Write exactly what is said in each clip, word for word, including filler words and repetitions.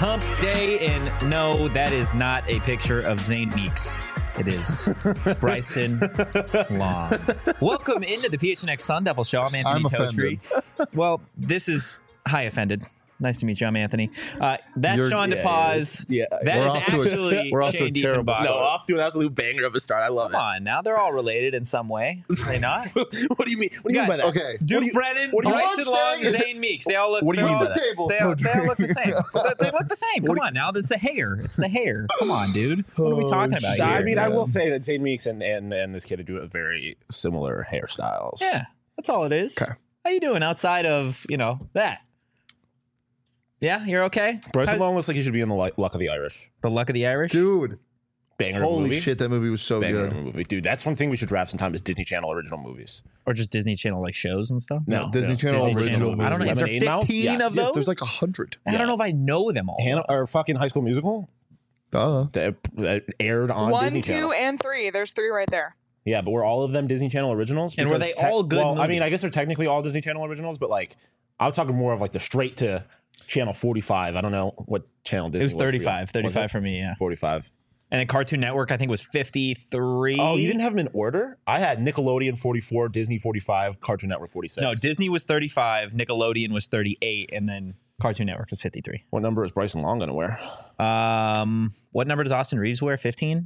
hump day, and no, that is not a picture of Zane Meeks. It is Bryson Long. Welcome into the P H N X Sun Devil Show. I'm Anthony I'm Totri. Well, this is hi offended. Nice to meet you. I'm Anthony. Uh, that's You're- Sean yeah, DePaz. yeah. That We're is off to a- actually we're off to a Shane terrible Diefenbach. start. No, off to an absolute banger of a start. I love Come on, now they're all related in some way. Are they not? it. What do you mean? What do you mean by that? Okay. Duke do you- Brennan, what do you- Bryson All I'm Long, saying is- Zane Meeks. They all look. What do you they're mean all- by that? tables, They, all- Totri. they all look the same. they, they look the same. Come on, now it's the hair. It's the hair. Come on, dude. What are we Oh, talking about shit. here? I mean, I Yeah. will say that Zane Meeks and, and, and this kid do a very similar hairstyles. Yeah, that's all it is. Okay. How you doing outside of, you know, that? Yeah, you're okay? Bryson How's- Long looks like he should be in the Li- Luck of the Irish. The Luck of the Irish? Dude, Banger of a holy movie. shit, that movie was so Banger of good. a movie. Dude, that's one thing we should draft sometime is Disney Channel original movies. Or just Disney Channel like shows and stuff? No, Disney Channel Disney original Channel. I don't know. Is there Lemonade Mouth? fifteen Yes. of Yes, those? there's like a hundred. I don't know if I know them all. Hannah, or fucking High School Musical Duh. that, that aired on One, Disney two, Channel. and three. There's three right there. Yeah, but were all of them Disney Channel originals? And were Because they all good Well, I mean, movies? I guess they're technically all Disney Channel originals, but like, I was talking more of like the straight to Channel forty-five. I don't know what channel Disney It was for you. thirty-five. Was thirty-five it? for me, yeah. forty-five. And then Cartoon Network, I think, was fifty-three. Oh, you didn't have them in order? I had Nickelodeon forty-four, Disney forty-five, Cartoon Network forty-six. No, Disney was thirty-five, Nickelodeon was thirty-eight, and then Cartoon Network was fifty-three. What number is Bryson Long going to wear? Um, what number does Austin Reeves wear? fifteen?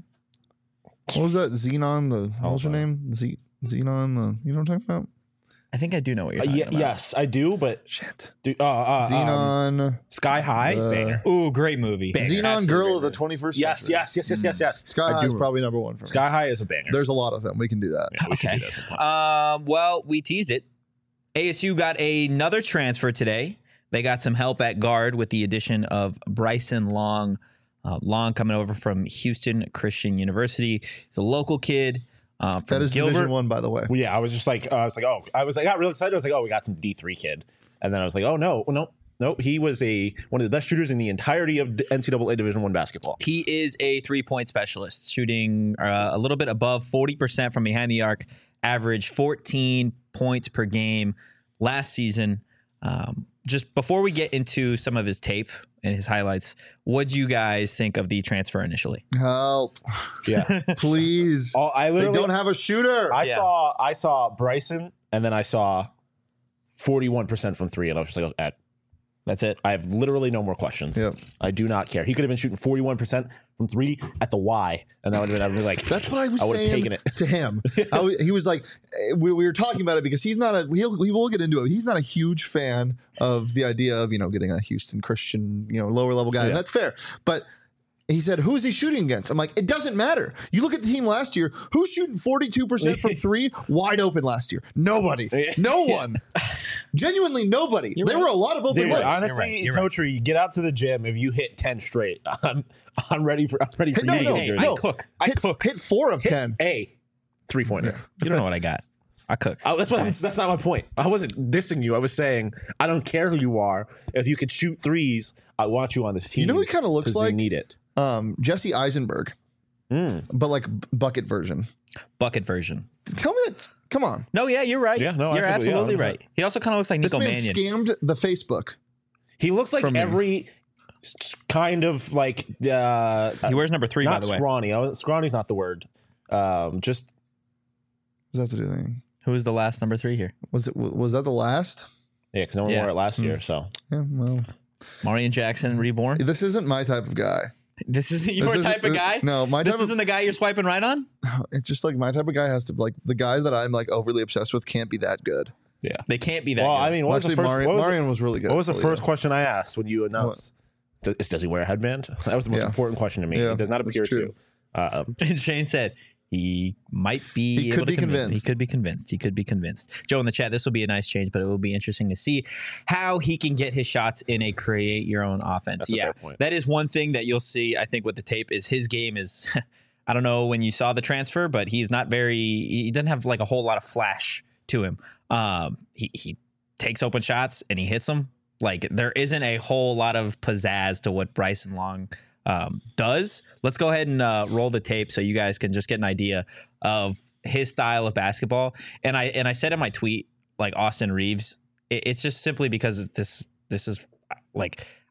What was that? Xenon, the, what was her Oh, name? Z- Xenon, the, you know what I'm talking about? I think I do know what you're Uh, talking ye- about. yes, I do, but Shit. do, uh, uh, um, Xenon. Sky High, uh, banger. Ooh, great movie. Banger. Xenon absolutely Girl banger. of the twenty-first Yes, century. yes, yes, yes, yes, yes. Sky I High do is remember. probably number one for me. Sky High is a banger. There's a lot of them. We can do that. Yeah, we should Okay. do that sometime. Um, well, we teased it. A S U got another transfer today. They got some help at guard with the addition of Bryson Long. Uh, Long coming over from Houston Christian University. He's a local kid. Uh, from That is Gilbert. Division One, by the way. Well, yeah, I was just like, uh, I was like, oh, I was, I got real excited. I was like, oh, we got some D three kid, and then I was like, oh no, no, no, he was a one of the best shooters in the entirety of N C double A Division One basketball. He is a three-point specialist, shooting uh, a little bit above forty percent from behind the arc, average fourteen points per game last season. Um, just before we get into some of his tape and his highlights, what do you guys think of the transfer initially? Help. Yeah, Please. all, I They literally don't have a shooter. I Yeah. saw I saw Bryson, and then I saw forty-one percent from three, and I was just like, at That's it. I have literally no more questions. Yep. I do not care. He could have been shooting forty-one percent from three at the Y, and that would have been, I'd be like, That's what I was I would have saying taken it. to him. I w- he was like, eh, we, we were talking about it because he's not a, we'll, we will get into it. He's not a huge fan of the idea of, you know, getting a Houston Christian, you know, lower level guy. Yeah. And that's fair. But he said, who is he shooting against? I'm like, it doesn't matter. You look at the team last year, who's shooting forty-two percent from three wide open last year? Nobody. No one. Genuinely nobody. You're there right. were a lot of open Dude, looks. honestly, You're right. You're Totri, get out to the gym. If you hit ten straight, I'm, I'm ready for I'm ready for Hey, you no, to no, get I no. cook. I hit, cook. hit four of Hit ten. a three pointer. You don't know what I got. I cook. Oh, that's what I'm, that's not my point. I wasn't dissing you. I was saying I don't care who you are. If you could shoot threes, I want you on this team. You know who he kind of looks 'cause they like? need it. Um, Jesse Eisenberg, Mm. but like b- bucket version. Bucket version. Tell me that. Come on. No, yeah, you're right. Yeah, no, I you're completely- yeah, absolutely I'm right. He also kind of looks like This Nico man Mannion. scammed the Facebook. He looks like From me. every s- kind of like uh, He wears number three, by not the way. scrawny. I was- Scrawny's not the word. Um, just Does that have to do anything? Who was the last number three here? Was it? Was that the last? yeah, because no one Yeah. wore it last year. So Yeah. Well, Marion Jackson, reborn. this isn't my type of guy. This isn't This your isn't- type of this- guy? No, my This type of. isn't the guy you're swiping right on? It's just like my type of guy has to like the guy that I'm like overly obsessed with can't be that good. yeah. They can't be that Well, good. I mean, what Well, was the actually, first? Marion, what was, the- Marion was really good. what was the actually, first yeah. question I asked when you announced? Does, does he wear a headband? That was the most Yeah. important question to me. Yeah, He does not that's appear true. to. Um, And Shane said he might be He able could to be convince. convinced. He could be convinced. He could be convinced. Joe in the chat, this will be a nice change, but it will be interesting to see how he can get his shots in a create your own offense. That's a yeah, fair point. that is one thing that you'll see, I think, with the tape is his game is, I don't know when you saw the transfer, but he's not very, he doesn't have like a whole lot of flash to him. Um, he, he takes open shots and he hits them. Like there isn't a whole lot of pizzazz to what Bryson Long um, does. Let's go ahead and uh, roll the tape so you guys can just get an idea of his style of basketball. And I and I said in my tweet, like Austin Reeves, it, it's just simply because this this is like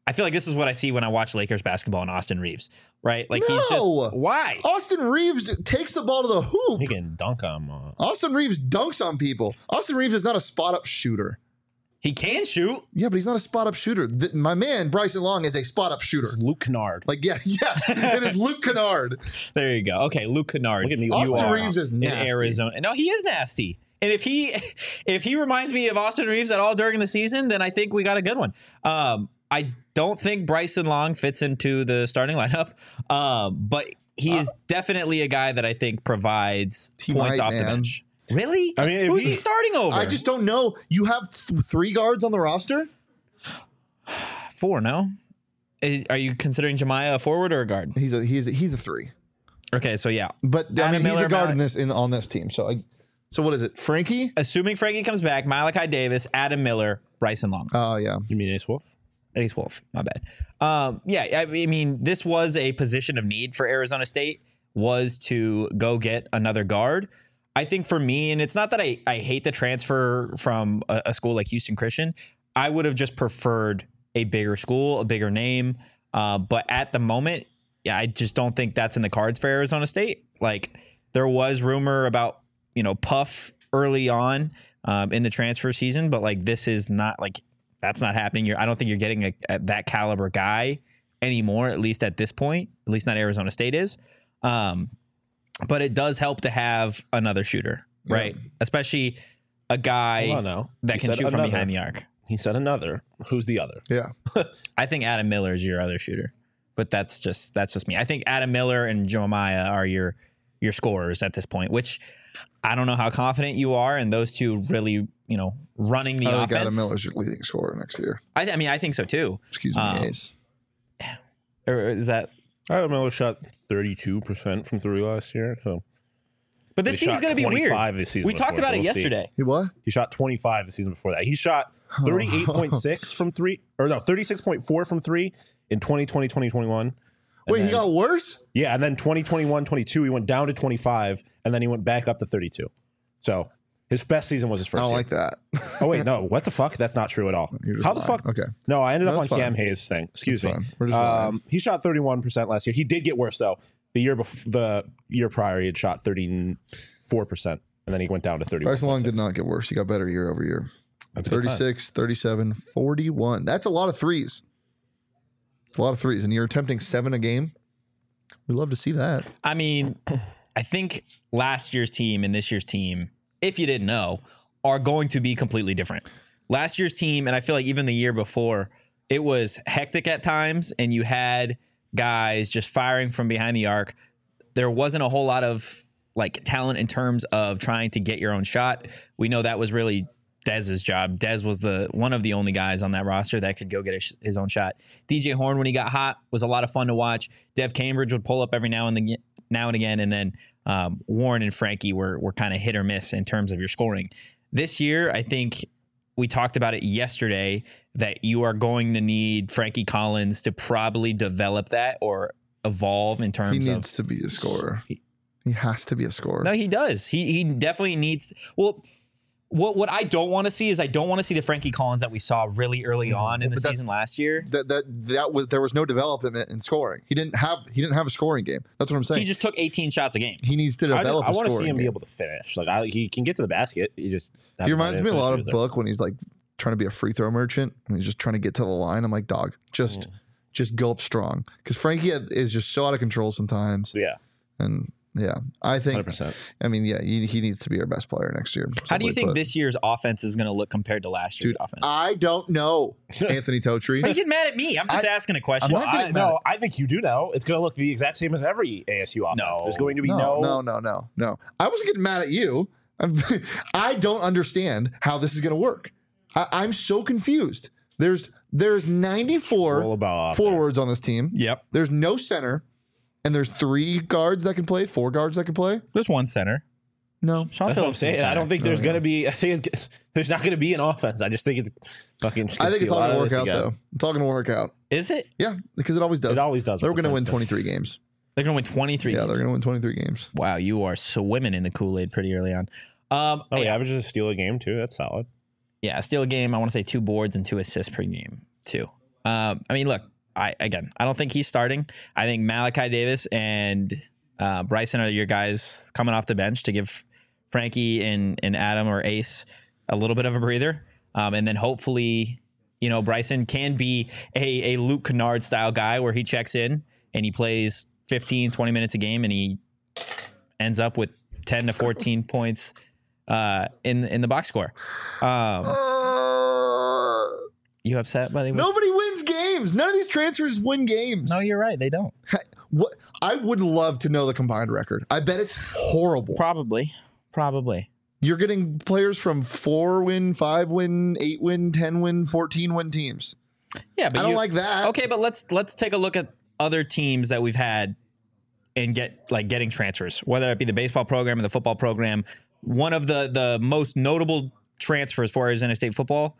I feel like this is what I see when I watch Lakers basketball and Austin Reeves, right? Like he's No! just why? Austin Reeves takes the ball to the hoop. He can dunk on him. Uh, Austin Reeves dunks on people. Austin Reeves is not a spot up shooter. He can shoot. Yeah, but he's not a spot up shooter. Th- my man Bryson Long is a spot up shooter. It's Luke Kennard. Like yeah, yes, it is Luke Kennard. There you go. Okay, Luke Kennard. Look at me. Austin You are Reeves is in nasty. Arizona. No, he is nasty. And if he if he reminds me of Austin Reeves at all during the season, then I think we got a good one. Um, I don't think Bryson Long fits into the starting lineup, um, but he is definitely a guy that I think provides He points might, off the man. bench. Really? I mean, if who's he- he starting over? I just don't know. You have th- three guards on the roster. four. No, Eh, are you considering Jemiah a forward or a guard? He's a he's a, he's a three. Okay, so yeah, But I Adam mean, he's Miller, a guard Mal- in this in on this team. So I, so what is it? Frankie? assuming Frankie comes back, Malachi Davis, Adam Miller, Bryson Long. Oh yeah. You mean Ace Wolf? Ace Wolf, my bad. Um, yeah, I mean, this was a position of need for Arizona State, was to go get another guard. I think for me, and it's not that I, I hate the transfer from a, a school like Houston Christian, I would have just preferred a bigger school, a bigger name. Uh, but at the moment, yeah, I just don't think that's in the cards for Arizona State. Like there was rumor about, you know, Puff early on um, in the transfer season, but like this is not like, that's not happening. You're, I don't think you're getting a, a, that caliber guy anymore, at least at this point. At least not Arizona State is. Um, but it does help to have another shooter, right? Yeah. Especially a guy Hold on now. that He can said shoot from another. behind the arc. He said another. Who's the other? Yeah. I think Adam Miller is your other shooter, but that's just that's just me. I think Adam Miller and Jeremiah are your your scorers at this point, which I don't know how confident you are in those two really, you know, running the I think offense. Adam Miller's your leading scorer next year. I, I mean, I think so too. Excuse me, Um, Ace. Or is that? Adam Miller shot thirty-two percent from three last year. So But this He team's shot going to be weird. twenty-five this season We talked before, about it we'll see. yesterday. He what? he shot twenty-five the season before that. He shot thirty-eight point six from three, or no, thirty-six point four from three in twenty twenty, twenty twenty-one. Wait, then- he got worse? Yeah, and then twenty twenty-one, twenty-two, he went down to twenty-five, and then he went back up to thirty-two. So his best season was his I first don't year. like that. Oh, wait, no. What the fuck? That's not true at all. You're just How the lying. fuck? Okay. No, I ended No, up on it's fine. Cam Hayes' thing. Excuse It's me. fine. We're just lying. Um, he shot thirty-one percent last year. He did get worse, though. The year before, the year prior, he had shot thirty-four percent, and then he went down to thirty-one. Bryson Long did not get worse. He got better year over year. That's a good sign. thirty-six, thirty-seven, forty-one. That's a lot of threes. It's a lot of threes. And you're attempting seven a game. We love to see that. I mean, I think last year's team and this year's team, if you didn't know, are going to be completely different. Last year's team, and I feel like even the year before, it was hectic at times, and you had guys just firing from behind the arc. There wasn't a whole lot of like talent in terms of trying to get your own shot. We know that was really Dez's job. Dez was the one of the only guys on that roster that could go get his, his own shot. D J Horn, when he got hot, was a lot of fun to watch. Dev Cambridge would pull up every now and then, now and again, and then um, Warren and Frankie were were kind of hit or miss in terms of your scoring. This year, I think we talked about it yesterday that you are going to need Frankie Collins to probably develop that or evolve in He terms needs of. to be a scorer. He has to be a scorer. No, he does. He he definitely needs. Well, what what I don't want to see is I don't want to see the Frankie Collins that we saw really early on in the But that's- season last year. that that that was there was no development in scoring. He didn't have he didn't have a scoring game. That's what I'm saying. He He, just took eighteen shots a game. needs to I, develop. I a want to see scoring him be game. able to finish. Like I, he can get to the basket. He just He reminds me a lot of Book. Book when he's like trying to be a free throw merchant and he's just trying to get to the line. I'm like, dog, just just go up strong because Frankie is just so out of control sometimes. So yeah, And yeah, I think. hundred percent. I mean, yeah, he, he needs to be our best player next year. How do you simply think put. this year's offense is going to look compared to last year's Dude, offense? I don't know, Anthony Totri. Are you getting mad at me? I'm just I- asking a question. I'm not I, getting mad. no, I think you do know. It's going to look the exact same as every A S U offense. No. There's going to be no, no. no, no, no, no. I wasn't getting mad at you. I'm, I don't understand how this is going to work. I, I'm so confused. There's there's ninety-four Roll about out forwards on this team. Yep. There's no center, and there's three guards that can play, four guards that can play. There's one center. No, Sean That's what I'm Phillips is saying. I don't center. think there's Oh, going yeah. to be. I think it's, there's not going to be an offense. I just think it's fucking. I think it's all going to work out though. It's all going to work out. Is it? Yeah, because it always does. It always does. They're with going to win defense. twenty-three games. They're going to win twenty-three. Yeah, games. they're going to win twenty-three games. Wow, you are swimming in the Kool-Aid pretty early on. Um, Oh, he yeah, averages a steal a game too. That's solid. yeah, steal a game. I want to say two boards and two assists per game too. Um, I mean, look, I again, I don't think he's starting. I think Malachi Davis and uh, Bryson are your guys coming off the bench to give Frankie and, and Adam or Ace a little bit of a breather. Um, and then hopefully, you know, Bryson can be a, a Luke Kennard style guy where he checks in and he plays fifteen, twenty minutes a game and he ends up with ten to fourteen points uh, in in the box score. Um, Uh, you upset, buddy? What's- nobody wins games. None of these transfers win games. No, you're right. They don't. What I would love to know the combined record. I bet it's horrible. Probably. Probably. You're getting players from four win, five win, eight win, ten win, fourteen win teams. Yeah, but I don't you- like that. Okay, but let's let's take a look at other teams that we've had and get like getting transfers, whether it be the baseball program or the football program. One of the the most notable transfers for Arizona State football,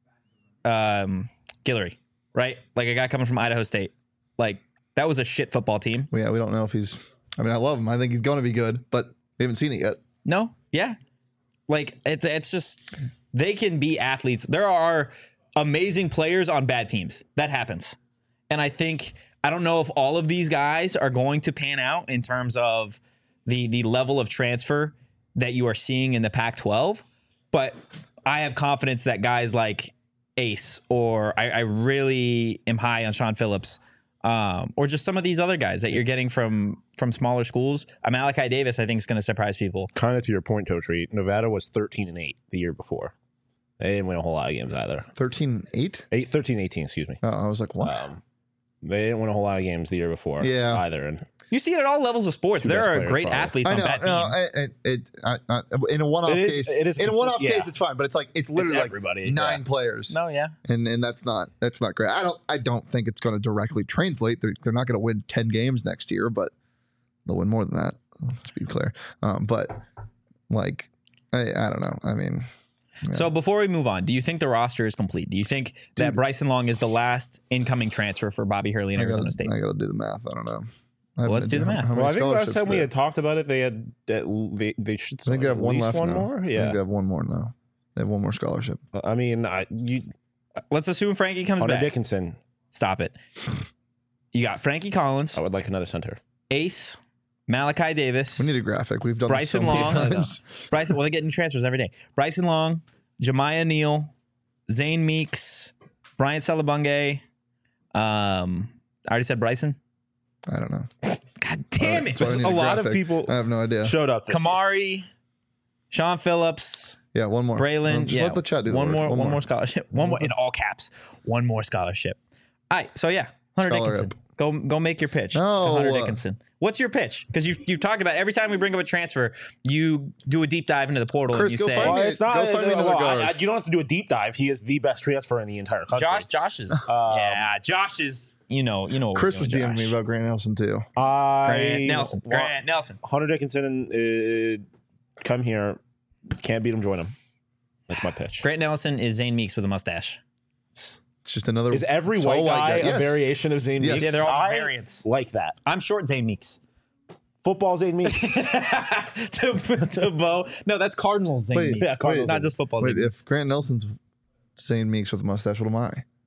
um, Guillory, right? Like a guy coming from Idaho State. Like that was a shit football team. Well, yeah, we don't know if he's. I mean, I love him. I think he's going to be good, but we haven't seen it yet. No, yeah, like it's it's just they can be athletes. There are amazing players on bad teams. That happens, and I think I don't know if all of these guys are going to pan out in terms of the the level of transfer that you are seeing in the Pac twelve, but I have confidence that guys like Ace or I, I really am high on Sean Phillips. Um, or just some of these other guys that you're getting from from smaller schools. Uh, Malachi Davis, I think, is going to surprise people. Kind of to your point, Totri, Nevada was thirteen and eight the year before. They didn't win a whole lot of games either. thirteen eight? Eight, thirteen, eighteen, excuse me. Oh, I was like, what? Um, they didn't win a whole lot of games the year before Yeah. either. And You see it at all levels of sports. Two There best are players, great probably. athletes I on know. bad No, teams. it, it, it, I, I, in a one-off It is- case, it is in a consist- one-off yeah. case, it's fine. But it's like it's literally like everybody, nine yeah. players. No, yeah. and and that's not that's not great. I don't I don't think it's going to directly translate. They're, they're not going to win ten games next year, but they'll win more than that. Let's be clear. Um, but like I I don't know. I mean, yeah. So before we move on, do you think the roster is complete? Do you think that Dude. Bryson Long is the last incoming transfer for Bobby Hurley in I Arizona gotta, State? I got to do the math. I don't know. I Well, let's haven't do the how- math. how many well, I think last scholarships time we they- had talked about it, they had that they they should I think they have at one least left one now. more. I think Yeah, they have one more now. They have one more scholarship. I mean, I, you Let's assume Frankie comes Hunter back. Dickinson. Stop it. You got Frankie Collins, I would like another center. Ace, Malachi Davis, We need a graphic. We've done Bryson this so Long. many times. Bryson. Well, they're getting transfers every day. Bryson Long, Jemiah Neal, Zane Meeks, Bryant Salabunge. Um, I already said Bryson. I don't know. God damn it! That's why I need a lot of graphic. people- I have no idea. Showed up. This Kamari, Sean Phillips, Yeah, one more. Braylon. Um, just yeah, let the chat do the one work. more, one, more scholarship. One more in all caps. One more scholarship. All right. So yeah, Hunter Scholar Dickinson. Go go make your pitch to No. Hunter Dickinson. What's your pitch? Because you you've talked about every time we bring up a transfer, you do a deep dive into the portal Chris, and you go say find me- Well, it's not. Go find me no, another I- guard. I- you don't have to do a deep dive. He is the best transfer in the entire country. Josh. Josh is Um, yeah. Josh is you know you know. what Chris we're was doing, DMing me Josh. about Grant Nelson too. I Grant Nelson. want Grant Nelson. Hunter Dickinson. Uh, come here. Can't beat him. Join him. That's my pitch. Grant Nelson is Zane Meeks with a mustache. It's just another. Is every it's white all guy a Yes. variation of Zane Yes. Meeks? Yeah, they're all I variants. like that. I'm short Zane Meeks. Football Zane Meeks. to, to Bo. No, that's Cardinals Zane Wait, Meeks. yeah, Cardinals not Zane just football Wait, Zane Meeks. if Grant Nelson's saying Meeks with a mustache, what am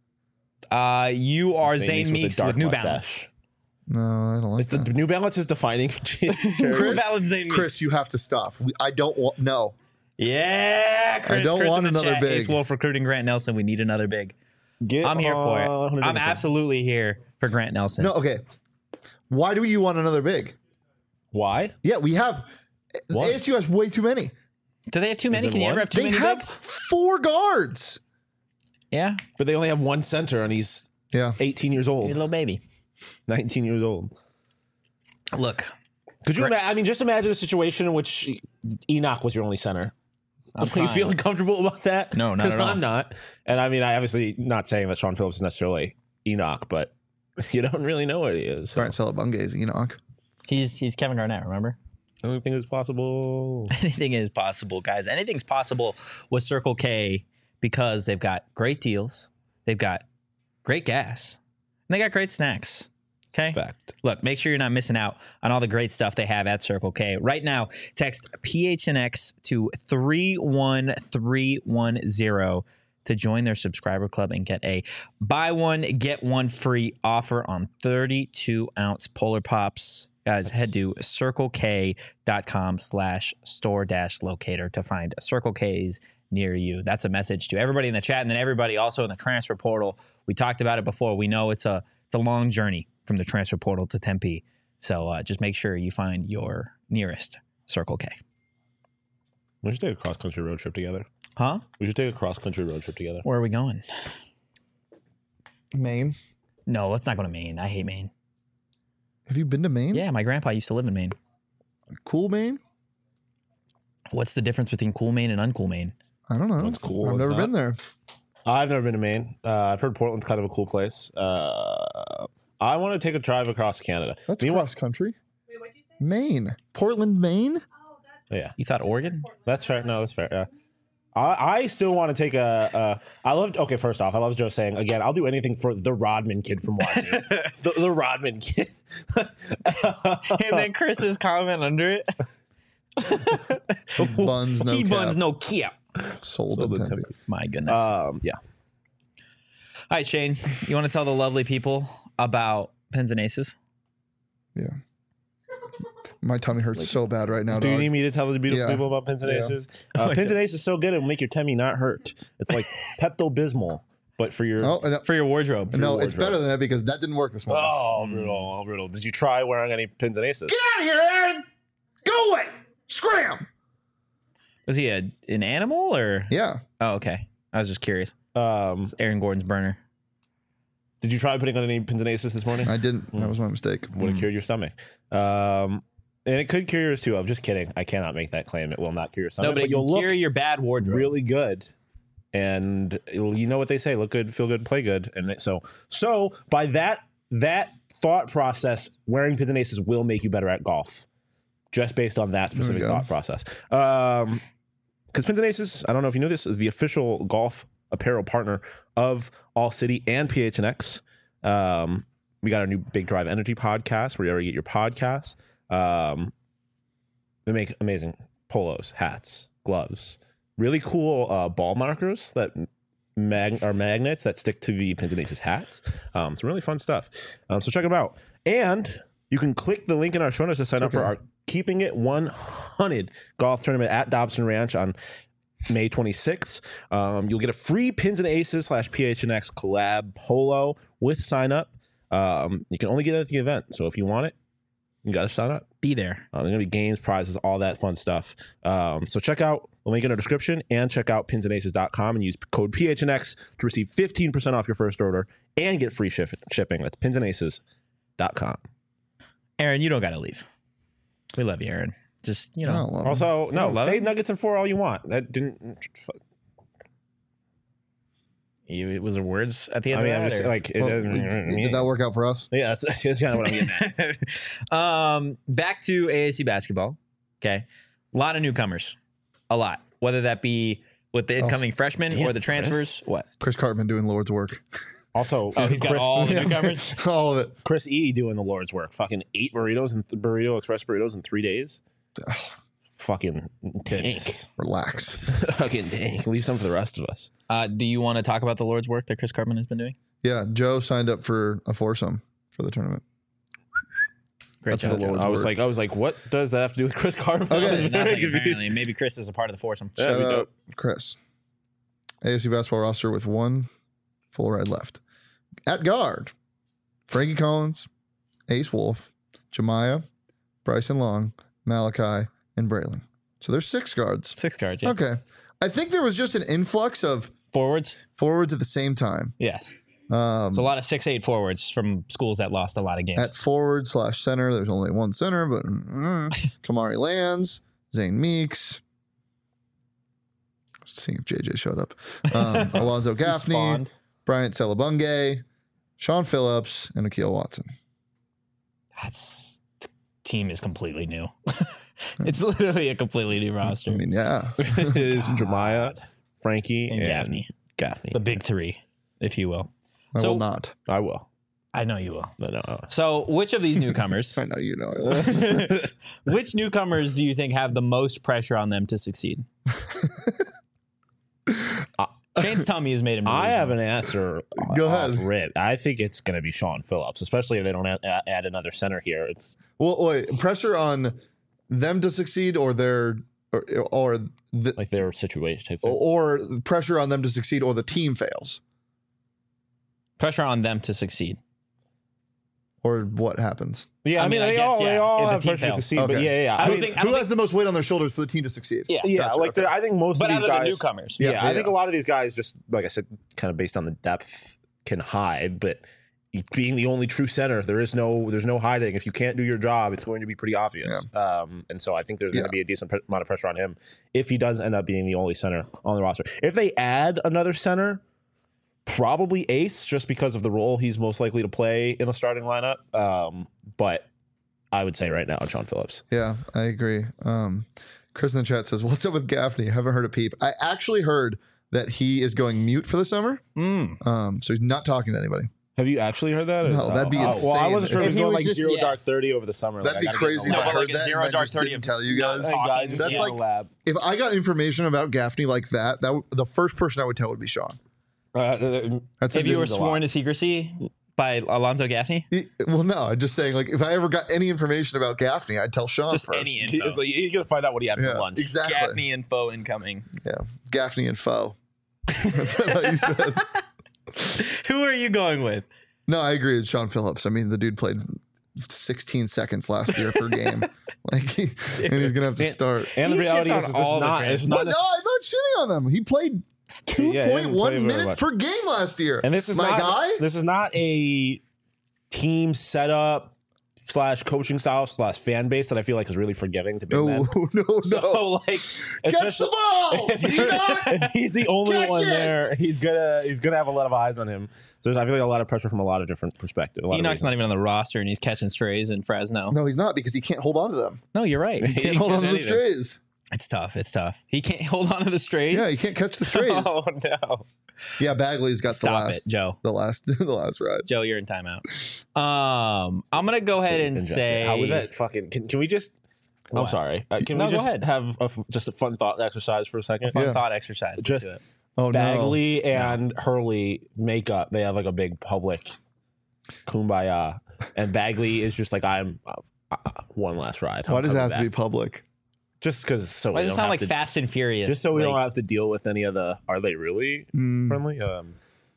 I? Uh, you are Zane Zane Meeks with a Meeks dark with New mustache. Balance. No, I don't like It's the that. New Balance is defining. New Chris, Balance Zane Meeks. Chris, you have to stop. We, I don't want. No, Yeah, Chris. I don't Chris want in the another chat. big. Ace Wolf recruiting Grant Nelson. We need another big. Get I'm here for it. on Hunter I'm Dickinson. absolutely here for Grant Nelson. no. Okay. Why do you want another big? Why? Yeah, we have. Why? A S U has way too many. Do they have too many? it Can you one? ever have too They many have bigs? four guards. Yeah, But they only have one center, and he's Yeah. eighteen years he's a old, little baby. nineteen years old. Look, Could you? Ima- I mean, just imagine a situation in which Enoch was your only center. I'm Are you fine. feeling comfortable about that? No, not at all. I'm not. And I mean, I obviously not saying that Sean Phillips is necessarily Enoch, but you don't really know what he is. So Brian Salabunge is Enoch. he's he's Kevin Garnett. Remember? anything is possible. Anything is possible, guys. Anything's possible with Circle K because they've got great deals, they've got great gas, and they got great snacks. Okay. Fact. Look, make sure you're not missing out on all the great stuff they have at Circle K. Right now, text P H N X to three one three one zero to join their subscriber club and get a buy one, get one free offer on thirty-two ounce Polar Pops. Guys, That's... head to circlek.com slash store dash locator to find Circle K's near you. That's a message to everybody in the chat and then everybody also in the transfer portal. We talked about it before. We know it's a it's a long journey from the transfer portal to Tempe. So uh, just make sure you find your nearest Circle K. We should take a cross-country road trip together. Huh? We should take a cross-country road trip together. Where are we going? Maine. No, let's not go to Maine. I hate Maine. Have you been to Maine? Yeah, my grandpa used to live in Maine. Cool Maine? What's the difference between cool Maine and uncool Maine? I don't know. One's cool. I've one's never not. been there. I've never been to Maine. Uh, I've heard Portland's kind of a cool place. Uh, I want to take a drive across Canada. That's Meanwhile- cross country. Wait, what'd you say? Maine. Portland, Maine? Yeah. You thought Oregon? That's fair. No, that's fair. Yeah. I, I still want to take a, a. I loved. Okay, first off, I love Joe saying again. I'll do anything for the Rodman kid from Wazoo. the, the Rodman kid. And then Chris's comment under it. He buns no he cap. buns no cap. Sold, Sold in in Tempe. Tempe. My goodness. Um. Yeah. All right, Shane. You want to tell the lovely people about Pins and Aces? Yeah. My tummy hurts so bad right now. Do you dog. need me to tell the beautiful Yeah. people about Pins and Yeah. Aces? Uh, Pins and Aces is so good it will make your tummy not hurt. It's like Pepto-Bismol, but for your. Oh, no, For your wardrobe. no your it's better than that because that didn't work this morning. Oh, brutal, oh, brutal. Did you try wearing any Pins and Aces? Get out of here, Aaron! Go away! Scram! Was he a, an animal or? Yeah. Oh, okay. I was just curious. Um, It's Aaron Gordon's burner. did you try putting on any Pins and Aces this morning? I didn't. That was my mistake. Would have cured your stomach. Um, and it could cure yours too. I'm just kidding. I cannot make that claim. It will not cure your stomach. No, but, but you'll you'll look cure your bad wardrobe. really good. And it'll- you know what they say: look good, feel good, play good. And it- so, so by that that thought process, wearing Pins and Aces will make you better at golf, just based on that specific go. thought process. Um, because Pins and Aces, I don't know if you knew this, is the official golf apparel partner of All City and P H N X. Um, we got our new Big Drive Energy podcast where you already get your podcasts. Um, they make amazing polos, hats, gloves, really cool uh, ball markers that mag- are magnets that stick to the Pins and Aces hats. Um, some really fun stuff. Um, so check them out. And you can click the link in our show notes to sign up Okay. for our Keeping It one hundred golf tournament at Dobson Ranch on May twenty-sixth. Um, you'll get a free Pins and Aces slash P H N X collab polo with sign up. Um, you can only get it at the event. So if you want it, you got to sign up. Be there. Uh, there's going to be games, prizes, all that fun stuff. Um, so check out the link in our description and check out pins and aces dot com and use code P H N X to receive fifteen percent off your first order and get free ship- shipping. That's pins and aces dot com. Aaron, you don't got to leave. We love you, Aaron. Just, you I know. don't love him. Also, no, love say it? Nuggets and four all you want. That didn't. You, it was there words at the end I mean, of I'm that? just or- like, it Well, doesn't. did that work out for us? Yeah, that's, that's kind of what I'm getting at. um, back to A A C basketball. Okay. A lot of newcomers. A lot. Whether that be with the incoming freshmen damn, or the transfers. Chris. What? Chris Cartman doing Lord's work. Also, Oh, he's got Chris, all the newcomers? All of it. Chris E doing the Lord's work. Fucking eight burritos and th- burrito express burritos in three days. Fucking tank. Relax. Fucking tank. Leave some for the rest of us. Uh, do you want to talk about the Lord's work that Chris Cartman has been doing? Yeah, Joe signed up for a foursome for the tournament. Great That's job. the Joe. Lord's I was work. like, I was like, what does that have to do with Chris Cartman? Okay. I was very Nothing, confused. apparently. Maybe Chris is a part of the foursome. Yeah, Shout we out, don't- Chris. A S C basketball roster with one full ride left. At guard, Frankie Collins, Ace Wolf, Jemiah, Bryson Long, Malachi, and Braylon. So there's six guards. Six cards. Yeah. Okay. I think there was just an influx of Forwards. forwards at the same time. Yes. Um, So a lot of six eight forwards from schools that lost a lot of games. at forward slash center, there's only one center, but mm, Kamari Lands, Zane Meeks. Seeing if J J showed up. Um, Alonzo Gaffney, Spawned. Bryant Celebunge, Sean Phillips, and Akil Watson. That's the team is completely new. It's literally a completely new roster. I mean, yeah. it is Jemiah, Frankie, and and, Gaffney, Gaffney. the big three, if you will. I So- will not. I will. I know you will. No, no. no. So, which of these newcomers, I know you know it. which newcomers do you think have the most pressure on them to succeed? Shane's tummy has made him. I have delusional. an answer. Go off ahead. Rip. I think it's going to be Sean Phillips, especially if they don't add, add another center here. It's Well, wait, pressure on them to succeed, or their, or, or the, like their situation. I think. or pressure on them to succeed, or the team fails, Pressure on them to succeed. or what happens. Yeah, I, I mean, mean, I they guess, all they yeah, all if the have team pressure to fails. succeed, but Okay. yeah, yeah. I I don't mean, think- I Who don't has the most weight on their shoulders for the team to succeed? Yeah. yeah, Gotcha, like okay. the- I think most But of out these of the guys. newcomers, Yeah, Yeah, I think yeah. a lot of these guys just like I said, kind of based on the depth, can hide, but. Being the only true center, there is no, there's no hiding. If you can't do your job, it's going to be pretty obvious. Um, and so I think there's going Yeah. to be a decent pre- amount of pressure on him if he does end up being the only center on the roster. If they add another center, probably Ace, just because of the role he's most likely to play in the starting lineup. Um, but I would say right now, Sean Phillips. Yeah, I agree. Um, Chris in the chat says, "What's up with Gaffney? Haven't heard a peep." I actually heard that he is going mute for the summer, Mm. um, so he's not talking to anybody. Have you actually heard that? No, that'd be Oh, Well, I insane. wasn't sure if If he he was was going like just- zero yeah. dark thirty over the summer. That'd like, be I gotta get in crazy. the if No, I but heard like a that zero and I dark just thirty didn't of- tell you No, guys. talking. Hey, guys, just That's get in like- the lab. If I got information about Gaffney like that, that w- the first person I would tell would be Sean. Uh, That's If a you were good- sworn to secrecy by Alonzo Gaffney, He- Well, no, I'm just saying. Like, if I ever got any information about Gaffney, I'd tell Sean just first. any info. it's like, you're gonna find out what he had Yeah, for lunch. exactly. Gaffney info incoming. Yeah, Gaffney and foe. That's what I thought you said. Who are you going with? No, I agree with Sean Phillips. I mean, the dude played sixteen seconds last year per game. Like, he, and he's gonna have to And- start. And the He reality shits is, on this is all the not. fans. It's But not. no, I'm not shitting on him. He played two Yeah, he point didn't play one very minutes much. per game last year. And this is my not. guy. This is not a team setup slash coaching style slash fan base that I feel like is really forgiving to big No, men. no, no. So like, Catch especially- the ball. if, Do you're- not if he's the only catch one it. there, he's gonna he's gonna have a lot of eyes on him. So I feel like a lot of pressure from a lot of different perspectives. Enoch's not even on the roster, and he's catching strays in Fresno. No, No, he's not because he can't hold on to them. you're right. He can't hold on to the strays. It's tough. It's tough. He can't hold on to the strays. Yeah, he can't catch the strays. Oh no! Yeah, Bagley's got Stop the last, it, Joe. the last, the last ride. Joe, you're in timeout. Um, I'm gonna go ahead and Injected. say how was that fucking? Can, can we just? I'm What? sorry. Uh, can No, we go just ahead. have a f just a fun thought exercise for a second? fun Yeah. thought exercise. Let's Just- do it. Oh no, Bagley and Hurley make up. They have like a big public kumbaya, and Bagley is just like, I'm uh, uh, one last ride. why I'm does it coming have to be back. public? Just because so Why we does it don't sound have like to, Fast and Furious? just so we Like, don't have to deal with any of the are they really Mm, friendly? Um,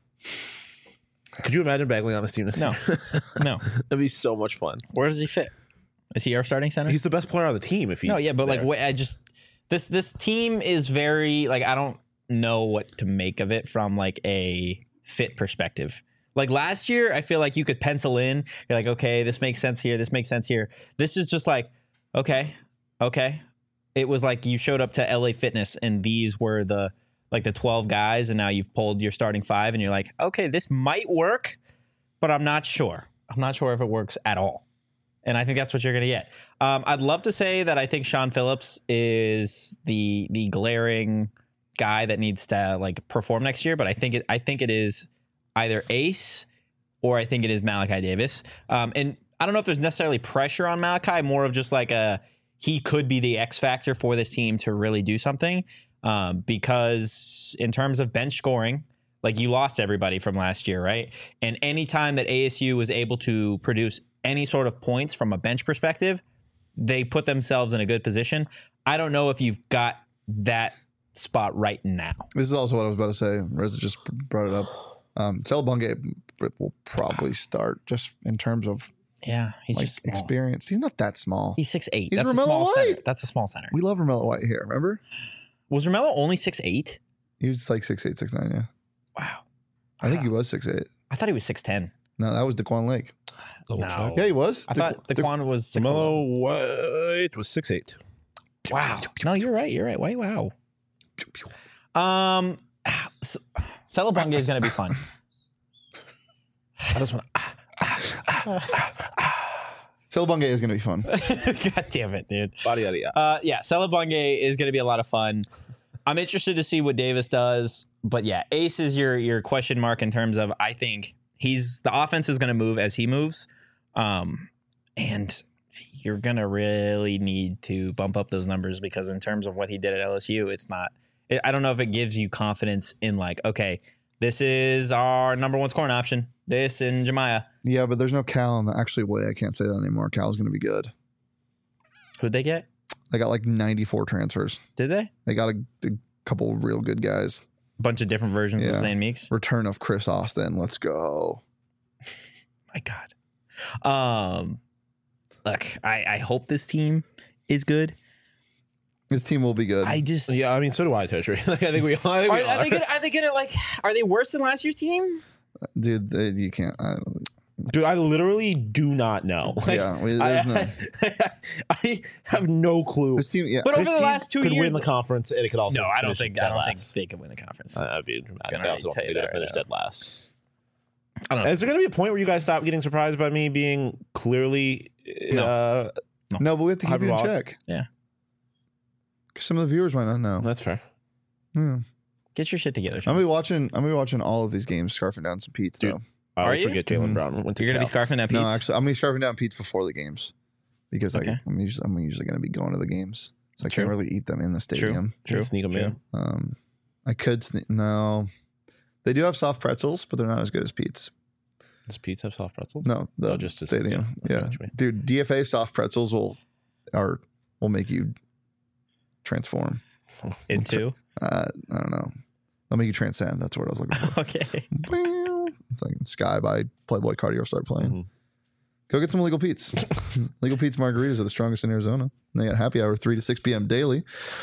could you imagine Bagley on this team? this No. year? No. That'd be so much fun. Where does he fit? Is he our starting center? He's the best player on the team. If he's no, yeah, but like, there. wait, I just this this team is very like I don't know what to make of it from like a fit perspective. Like last year, I feel like you could pencil in. You're like, okay, this makes sense here. This makes sense here. This is just like, okay, okay. It was like you showed up to L A Fitness and these were the like the twelve guys, and now you've pulled your starting five, and you're like, okay, this might work, but I'm not sure. I'm not sure if it works at all. And I think that's what you're going to get. Um, I'd love to say that I think Sean Phillips is the the glaring guy that needs to like perform next year, but I think it I think it is either Ace or I think it is Malachi Davis. Um, and I don't know if there's necessarily pressure on Malachi, more of just like a he could be the X factor for this team to really do something. Um, because in terms of bench scoring, like you lost everybody from last year, right? And anytime that A S U was able to produce any sort of points from a bench perspective, they put themselves in a good position. I don't know if you've got that spot right now. this is also what I was about to say. Reza just brought it up. Um, Selabunga will probably start just in terms of Yeah, he's like just small. experience. He's not that small. He's six eight. He's That's a Romello small center. White. That's a small center. We love Romello White here. Remember, Was Romello only six eight? he was like six eight, six nine. Yeah, Wow. I think he was six eight. I thought he was six ten. No, that was Daquan Lake. Double No. check. Yeah, he was. I Daquan- thought Daquan was six eleven. Melo White was six eight. Wow. No, you're right. You're right. Wait, wow. Um, S- Celebunga is going to be fun. I just want. Selabunga is going to be fun. God damn it, dude. Body yada yada. Uh, yeah, Celebunga is going to be a lot of fun. I'm interested to see what Davis does, but yeah, Ace is your your question mark in terms of I think he's the offense is going to move as he moves, um, and you're going to really need to bump up those numbers because in terms of what he did at L S U, it's not It, I don't know if it gives you confidence in like, okay, this is our number one scoring option. This and Jemiah. Yeah, but there's no Cal in the actually way. I can't say that anymore. Cal's going to be good. Who'd they get? They got like ninety-four transfers. Did they? They got a, a couple real good guys. Bunch of different versions Yeah. of Zane Meeks. Return of Chris Austin. Let's go. My God. Um, look, I, I hope this team is good. His team will be good. I just Yeah, I mean, so do I, Toshi. Like, I think we all. I think are, we all are they are. gonna are they gonna like are they worse than last year's team? Dude, they, you can't. I, Dude, I literally do not know. Like, yeah, we, I, there's no. I, I have no clue. This team, yeah. But over This the team last two could years, win the conference, and it could also. no, I don't finish think I dead don't last. think they can win the conference. Uh, That'd be dramatic. Gonna I also tell don't you think they're that gonna right finish now. dead last. I don't know. Is there going to be a point where you guys stop getting surprised by me being clearly? No. Uh, No, but we have to keep you in Hyperbolic. check. Yeah. Because some of the viewers might not know. that's fair. Yeah. Get your shit together. I'm Sean. gonna be watching. I'm gonna be watching all of these games, scarfing down some Pete's Dude, though. I Are always you? forget Jalen Mhm. Brown went to You're gonna be Cal. scarfing that Pete's? No, actually, I'm gonna be scarfing down Pete's before the games because Okay. I, I'm usually I'm usually gonna be going to the games, so I True. can't really eat them in the stadium. True. Sneak them True. in. Um, I could sne- no. They do have soft pretzels, but they're not as good as Pete's. Does Pete's have soft pretzels? No, the Oh, just to- stadium. yeah, Yeah, okay, what you mean. dude, D F A soft pretzels will are will make you transform. Into Uh, I don't know. They'll make you transcend. That's what I was looking for. okay. It's like Sky by Playboy Cardio start playing. Mhm. Go get some Legal Pete's. Legal Pete's margaritas are the strongest in Arizona. And they got happy hour three to six p.m. daily.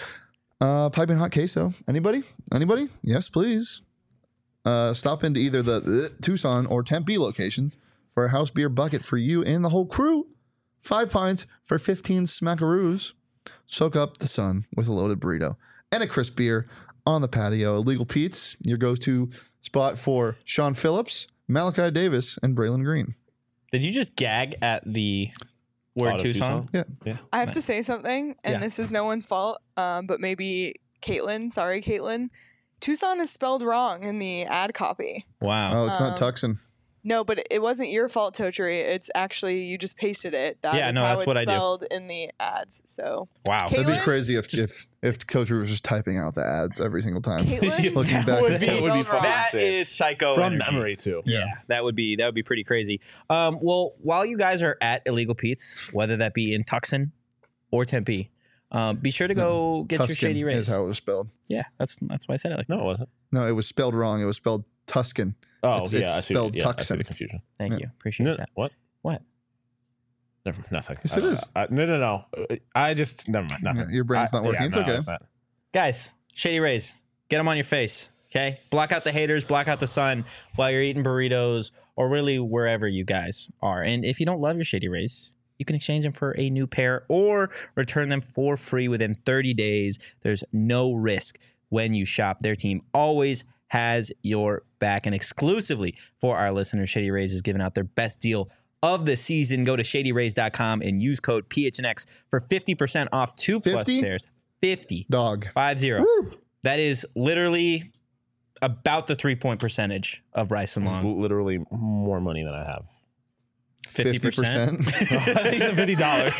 Uh, piping hot queso. Anybody? Anybody? Yes, please. Uh, stop into either the uh, Tucson or Tempe locations for a house beer bucket for you and the whole crew. Five pints for fifteen smackaroos. Soak up the sun with a loaded burrito and a crisp beer on the patio. Illegal Pete's, your go-to spot for Sean Phillips, Malachi Davis, and Braylon Green. Did you just gag at the word Auto Tucson? Tucson? Yeah. I have to say something, and Yeah. this is no one's fault, um, but maybe Caitlin, sorry, Caitlin. Tucson is spelled wrong in the ad copy. Wow. Oh, it's not Um, Tucson. No, but it wasn't your fault, Tochery. It's actually you just pasted it. That is Yeah, no, how that's it's what I do. spelled in the ads. So Wow. Kate- It'd be Caitlin? crazy if if if Coach was just typing out the ads every single time. Caitlin, Looking That back would at be, it. that would be Spelled fucking wrong. That insane. is psycho From energy. memory too. Yeah, that would be that would be pretty crazy. Um, well, while you guys are at Illegal Pete's, whether that be in Tucson or Tempe, um, be sure to go get your Tuscan shady is rays. how it was spelled. Yeah, that's that's why I said it like that. No, it wasn't. No, it was spelled wrong. It was spelled Tuscan. Oh, It's- yeah, it's I see. spelled yeah, I see Tucson. the confusion. Thank Yeah. you, appreciate No, that. what? What? Never, nothing. Yes, I it don't is. know. I, no, no, no. I just never mind. Nothing. Yeah, your brain's I- not working. yeah, It's no, okay. not. Guys, shady rays, get them on your face. Okay, block out the haters, block out the sun while you're eating burritos or really wherever you guys are. And if you don't love your shady rays, you can exchange them for a new pair or return them for free within thirty days. There's no risk when you shop. Their team always has your back. And exclusively for our listeners, Shady Rays is giving out their best deal of the season. Go to shady rays dot com and use code P H N X for fifty percent off two plus fifty? pairs. fifty. Dog. Five zero. Woo! That is literally about the three point percentage of Bryson This is Long. literally more money than I have. Fifty percent. I think you said fifty dollars.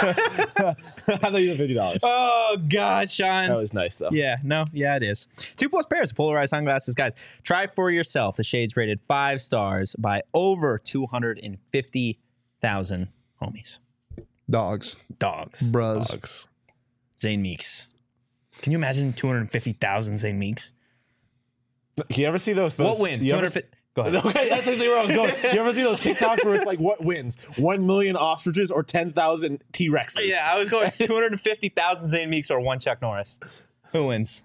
I thought you said fifty dollars. Oh God, Sean. That was nice though. Yeah, no, yeah, it is. Two plus pairs of polarized sunglasses, guys. Try for yourself. The shades rated five stars by over two hundred fifty thousand homies. Dogs. Dogs. Bruz. Dogs. Zane Meeks. Can you imagine two hundred fifty thousand Zane Meeks? You ever see those? those What wins? you two ever- hundred fifty. Go ahead. Okay, that's actually where I was going. You ever see those TikToks where it's like, what wins? One million ostriches or ten thousand T Rexes? Yeah, I was going two hundred fifty thousand Zane Meeks or one Chuck Norris. Who wins?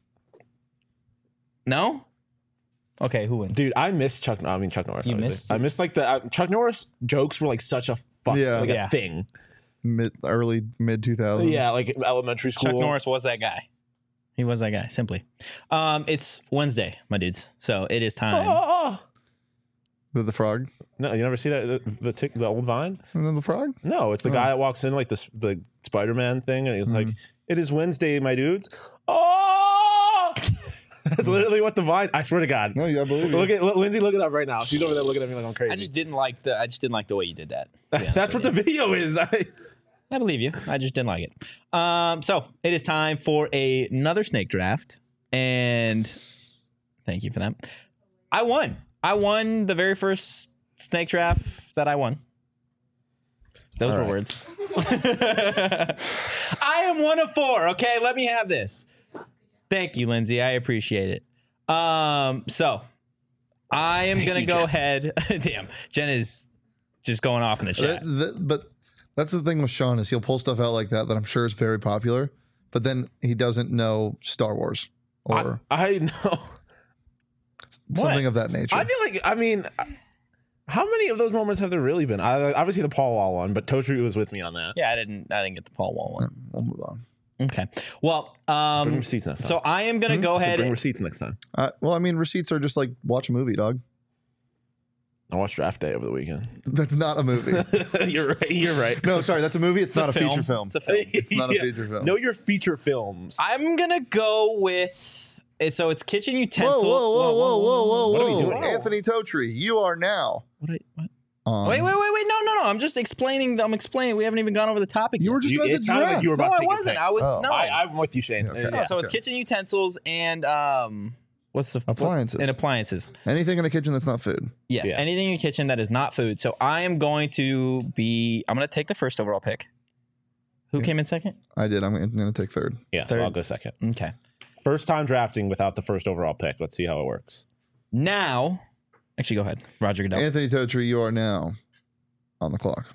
No? Okay, who wins? Dude, I miss Chuck. I mean Chuck Norris. You obviously. miss- I miss like the uh, Chuck Norris jokes were like such a fuck, Yeah. like Yeah. a thing. Mid early mid two thousands. Yeah, like elementary school. Chuck Norris was that guy. He was that guy, simply. Um, it's Wednesday, my dudes. So it is time. Oh, The, the frog. no, you never see that the the, tick, the old Vine? And then the frog. No, it's the Oh. guy that walks in like this the Spider Man thing, and he's like, "It is Wednesday, my dudes." Oh, that's literally what the Vine. I swear to God. No, yeah, I believe you. Look at look, Lindsay. Look it up right now. She's over there looking at me like I'm crazy. I just didn't like the. I just didn't like the way you did that. to be honest That's with what you. the video is. I, I believe you. I just didn't like it. Um, so it is time for a, another snake draft. and thank you for that. I won. I won the very first snake draft that I won. Those All were right. words. I am one of four. Okay, let me have this. Thank you, Lindsay. I appreciate it. Um, so I am Thank gonna you, go Jen. ahead. Damn, Jen is just going off in the chat. That- that- but that's the thing with Sean is he'll pull stuff out like that that I'm sure is very popular, but then he doesn't know Star Wars or I, I know. something of that nature. I feel like, I mean, how many of those moments have there really been? I, obviously the Paul Wall one, but Toshi was with me on that. Yeah, I didn't. I didn't get the Paul Wall one. We'll move on. Okay. Well, Bring um, receipts next time. so I am gonna go So ahead. bring and- receipts next time. Uh, well, I mean, receipts are just like watch a movie, dog. I watched Draft Day over the weekend. That's not a movie. You're right. You're right. No, sorry, that's a movie. It's, a not a film. feature film. It's a film. It's not a Yeah. feature film. Know your feature films. I'm gonna go with. it- So it's kitchen Whoa, utensil. whoa, whoa, whoa, whoa, whoa, What are we whoa. doing? Anthony Totri, you are now. What? I, what? on- Wait, wait, wait, wait! No, no, no! I'm just explaining. I'm explaining. We haven't even gone over the topic. You yet. were just You- about it to sounded like draft. you were No, about to I take a wasn't. pick. I was Oh. no. I, I'm with you, Shane. Okay. Uh, No, yeah. so it's kitchen utensils and um, what's the Appliances. and appliances. Anything in the kitchen that's not food. Yes, Yeah. anything in the kitchen that is not food. So I am going to be. I'm going to take the first overall pick. Who came in second? I did. I'm going to take third. Yeah, so Third. I'll go second. Okay. First time drafting without the first overall pick. Let's see how it works. Now, actually, go ahead, Roger Goodell. Anthony Totri, you are now on the clock.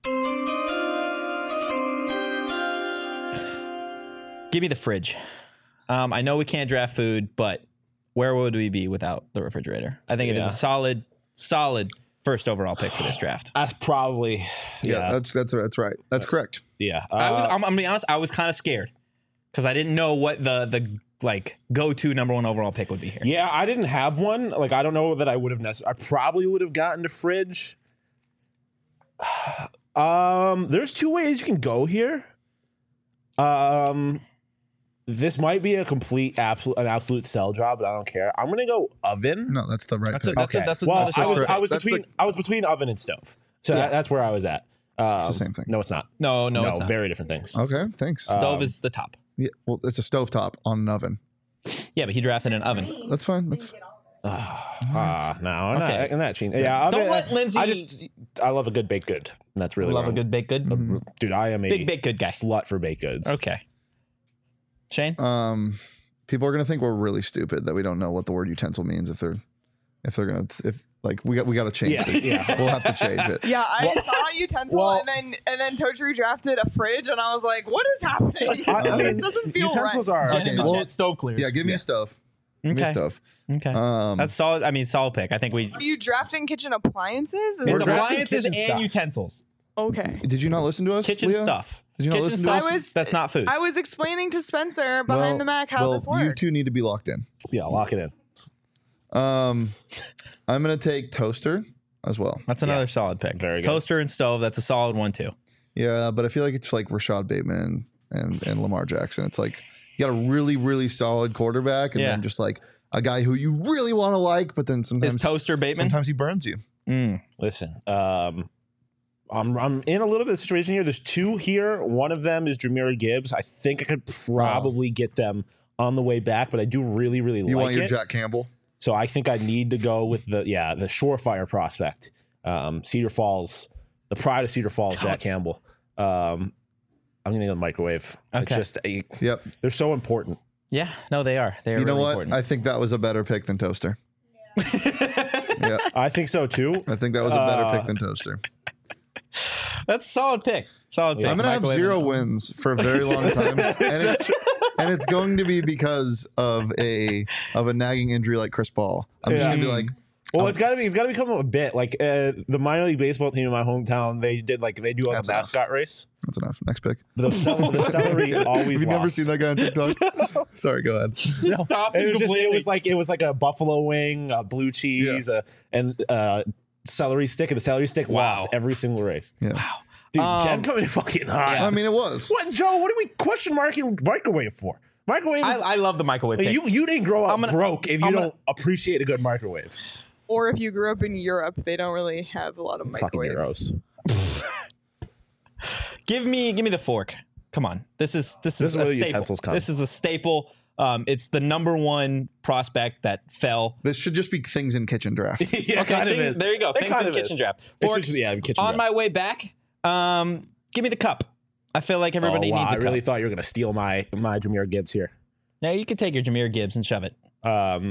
Give me the fridge. Um, I know we can't draft food, but where would we be without the refrigerator? I think it is Yeah. a solid, solid first overall pick for this draft. That's probably Yeah, yeah. that's that's that's right. That's correct. yeah. I was, Uh, I'm, I'm gonna be honest. I was kind of scared because I didn't know what the the like go to number one overall pick would be here. Yeah, I didn't have one. Like, I don't know that I would have necessarily. I probably would have gotten to fridge. Um, there's two ways you can go here. Um, this might be a complete absolute an absolute sell job, but I don't care. I'm gonna go oven. No, that's the right That's a- pick. that's okay. that's well, another I was correct. I was That's between the- I was between oven and stove, so Yeah. that, that's where I was at. Um, the same thing. No, it's not. No, no, No, it's not. very different things. Okay, thanks. Stove um, is the top. yeah, well, it's a stovetop on an oven. Yeah, but he drafted an oven. That's fine. That's Ah, no, I'm Okay. not, I'm not cheating. Yeah, Don't oven- let Lindsay- I just I love a good baked good. And that's really Love a wrong. good baked good. Dude, I am a Big baked good guy. slut for baked goods. Okay. Shane. um. People are gonna think we're really stupid that we don't know what the word utensil means if they're if they're gonna if like we got we got to change Yeah, it. yeah. We'll have to change it. Yeah, I saw utensil well- and then and then Totri drafted a fridge and I was like, what is happening? I, I this mean, doesn't feel utensils right. are Jen in the chat, stove clears. Yeah, give me a stove. Give me a Okay. stove. Okay. Um, That's solid. I mean, solid pick. I think we. Are you drafting kitchen appliances? Is We're It's that- drafting appliances and kitchen stuff. utensils. okay. did you not listen to us? Kitchen Leah? stuff. Did you not Kitchen listen to stuff. us? I was- That's not food. I was explaining to Spencer behind Well- the Mac how well, this works. you two need to be locked in. Yeah, lock it in. Um, I'm gonna take toaster as well. That's another solid pick. Very good. Toaster and stove. That's a solid one too. Yeah, but I feel like it's like Rashad Bateman and and, and Lamar Jackson. It's like you got a really really solid quarterback, and Yeah. then just like a guy who you really want to like, but then Is sometimes Toaster Bateman? sometimes he burns you. Mm. Listen, um, I'm I'm in a little bit of a situation here. There's two here. One of them is Jameer Gibbs. I think I could probably get them on the way back, but I do really really You like want your it. Jack Campbell? So I think I need to go with the yeah the surefire prospect, um, Cedar Falls, the pride of Cedar Falls, Jack Campbell. Um, I'm gonna go microwave. It's Okay. just a, Yep. they're so important. Yeah. No, they are. They are You know really what? important. I think that was a better pick than toaster. Yeah, I think so too. I think that was a better Uh, pick than toaster. That's a solid pick. Solid pick. I'm gonna have Microwave zero and- wins for a very long time, and it's and it's going to be because of a of a nagging injury like Chris Paul. I'm just Yeah. gonna be like, Well, it's gotta be. It's gotta become a bit like uh, the minor league baseball team in my hometown. They did like they do like That's a enough. mascot race. that's enough. Next pick. The, cel- the celery always. Have you never lost. seen that guy on TikTok? Sorry, go ahead. Just stops It him was just. It completely. was like it was like a buffalo wing, a blue cheese, uh, and uh, celery stick, and the celery stick Wow. lost every single race. Yeah. Dude, Um, Jen coming in fucking hot. I mean, it was. What, Joe? What are we question marking microwave for? Microwave. Is, I, I love the microwave pick. you you didn't grow up I'm gonna- broke if you I'm don't gonna- appreciate a good microwave. Or if you grew up in Europe, they don't really have a lot of Fucking microwaves. euros. Give me, give me the fork. Come on, this is this is This is a where the staple. utensils come. This is a staple Um, it's the number one prospect that fell. This should just be things in kitchen draft. yeah, Okay, kind of thing- is. there you go. It Things kind in of kitchen is. draft. It's For- just- yeah, kitchen on draft. my way back, um, give me the cup. I feel like everybody oh, wow, needs a I really cup. thought you were going to steal my my Jahmyr Gibbs here. Now you can take your Jahmyr Gibbs and shove it. Um,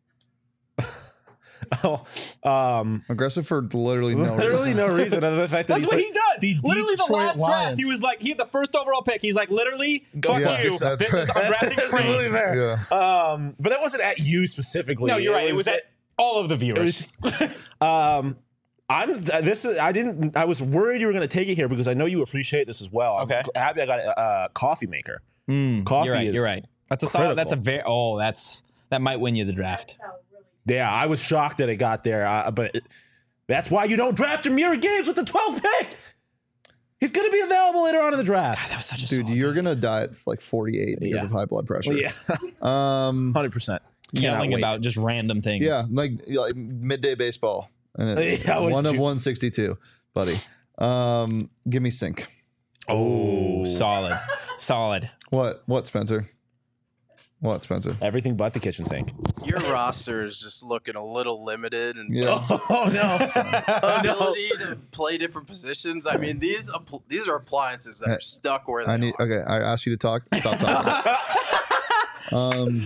oh, um, Aggressive for literally no literally reason. no reason other than the fact that That's he's what like, he does. the Literally, the Detroit last draft, Lions. he was like, he had the first overall pick. He's like, literally, fuck Yeah, you. that's This is I'm drafting That's really trains. fair. Yeah. Um, but it wasn't at you specifically. No, you're right. It was at all of the It was viewers. just, um, I'm this. Is, I didn't. I was worried you were going to take it here because I know you appreciate this as well. I'm Okay. happy I got a uh, coffee maker. Mm, Coffee You're right. is You're right. That's a solid. That's a critical. very. Oh, that's that might win you the draft. Yeah, I was shocked that it got there, uh, but it, that's why you don't draft Jahmyr Gibbs with the twelfth pick. He's going to be available later on in the draft. That was such a Dude, solid you're gonna die at like forty-eight because Yeah. of high blood pressure. Yeah, Um. hundred percent. yelling about just random things. Yeah, like, like midday baseball, and it, Yeah, what one did of you- one sixty-two, buddy. Um, give me sync. Oh, solid, solid. What? What, Spencer? What, Spencer? Everything but the kitchen sink. Your roster is just looking a little limited in Yeah. terms of Oh no! ability to play different positions. I mean, these appl- these are appliances that Hey, are stuck where they I need. are. Okay, I asked you to talk. Stop talking. um.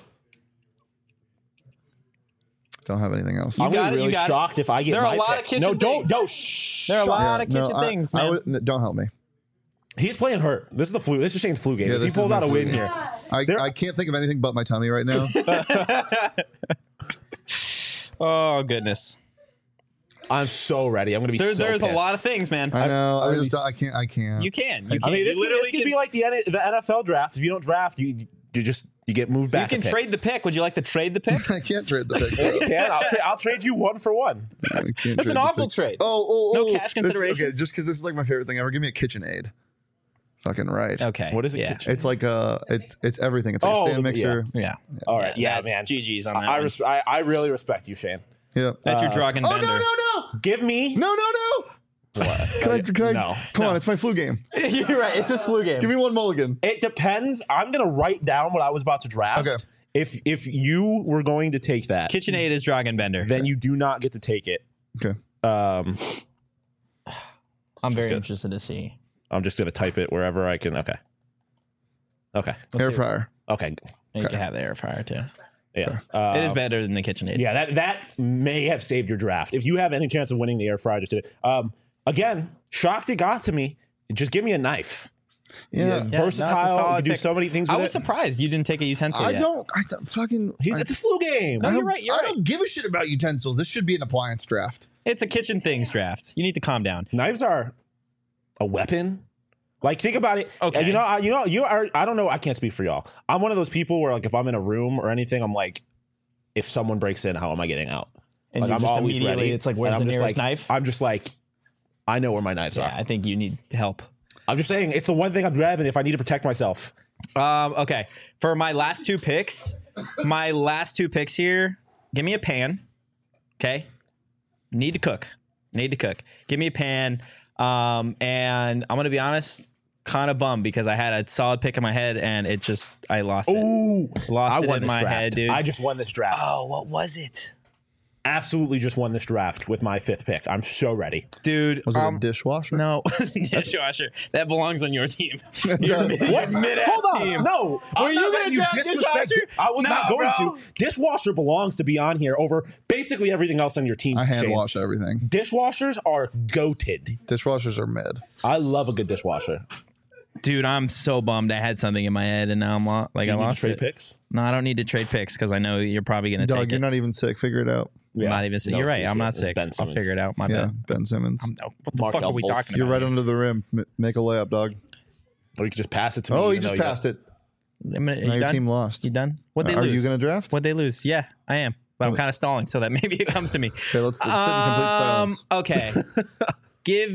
Don't have anything else. You I'm got gonna it, be you really got it. shocked if I get. There are my a lot pick. of kitchen No, don't. things. No, shh. There are a lot of Yeah, kitchen no, I- things, I man. would- no, don't help me. He's playing hurt. This is the flu. This is Shane's flu game. Yeah, if he this is pulls my out a flu win game. here, I, There- I can't think of anything but my tummy right now. Oh goodness. I'm so ready. I'm gonna be. There, so there's a pissed. lot of things, man. I know. I'm I gonna just be don't- I can't. I can't. You can. You can. I mean, this, you could, literally this could can, be like the N- the N F L draft. If you don't draft, you you just you get moved you back. can a pick. trade the pick. Would you like to trade the pick? I can't trade the pick. Yeah, though. you can. I'll, tra- I'll trade you one for one. I can't That's trade an the awful pick. trade. Oh, oh, No oh, cash this- considerations? okay, just because this is like my favorite thing ever. Give me a KitchenAid. Fucking right. Okay. What is it? Yeah. Kitchen? It's like uh it's it's everything. It's like Oh, a stand the- mixer. Yeah. All right. Yeah, that's man. G G's on I that. I, one. res- I I really respect you, Shane. Yeah. That's your uh, Dragon Oh Bender. no no no Give me. no no no! What? Can I? Can I? No. Come on, it's my flu game. You're right. It's this flu game. Give me one mulligan. It depends. I'm gonna write down what I was about to draft. Okay. If if you were going to take that, KitchenAid is Dragon Bender. then you do not get to take it. Okay. Um, I'm very Good. interested to see. I'm just gonna type it wherever I can. Okay. Okay. Air fryer. Okay. You can have the air fryer too. Yeah. It is Um, better than the KitchenAid. Yeah, that that may have saved your draft. If you have any chance of winning the air fryer, just do it. Um, again, shocked it got to me. Just give me a knife. Yeah. Yeah, no, it's a Versatile. You solid can do pick. so many things with I was it. surprised you didn't take a utensil I yet. don't. I don't fucking. He's, I, it's a flu game. No, I you're don't, right. You're I right. don't give a shit about utensils. This should be an appliance draft. It's a kitchen things draft. You need to calm down. Knives are a weapon. Like, think about it. Okay. And you know, I, you know, you are. I don't know. I can't speak for y'all. I'm one of those people where, like, if I'm in a room or anything, I'm like, if someone breaks in, how am I getting out? And like, you I'm just always immediately, ready. it's like, And where's I'm the just nearest like, knife? I'm just like, I know where my knives Yeah, are. I think you need help. I'm just saying, it's the one thing I'm grabbing if I need to protect myself. Um, okay. For my last two picks, my last two picks here, give me a pan. Okay. Need to cook. Need to cook. Give me a pan. Um, and I'm gonna be honest, kind of bummed because I had a solid pick in my head and it just I lost it. Ooh, Lost I it won in this my draft. head, dude. I just won this draft. Oh, what was it? Absolutely, just won this draft with my fifth pick. I'm so ready. Dude, Was it um, a dishwasher? no, dishwasher. That belongs on your team. It Your does. mid- your mid-ass Hold on. team. No, Were I'm you not gonna letting draft disrespect. dishwasher? I was No, not going bro. to. Dishwasher belongs to be on here over basically everything else on your team. I hand Shane. wash everything. Dishwashers are goated. Dishwashers are mid. I love a good dishwasher. Dude, I'm so bummed. I had something in my head and now I'm lo- like Do I you need to lost trade it. picks? No, I don't need to trade picks because I know you're probably gonna Dog, take you're it. not even sick. Figure it out. I'm not even sick. No, You're right. he's I'm here. not It's sick. Ben I'll Simmons. figure it out. My Yeah, bad. Ben Simmons. No, what the Mark fuck are we Fultz. talking You're about? right under the rim. M- make a layup, dog. Or you could just pass it to me. Oh, even you just though you passed it. I'm gonna- Now you your done? team lost. You done? What they Are lose? you going to draft? What they lose? Yeah, I am. But I'm kind of stalling so that maybe it comes to me. Okay, let's, let's sit in complete silence. Um, okay. Give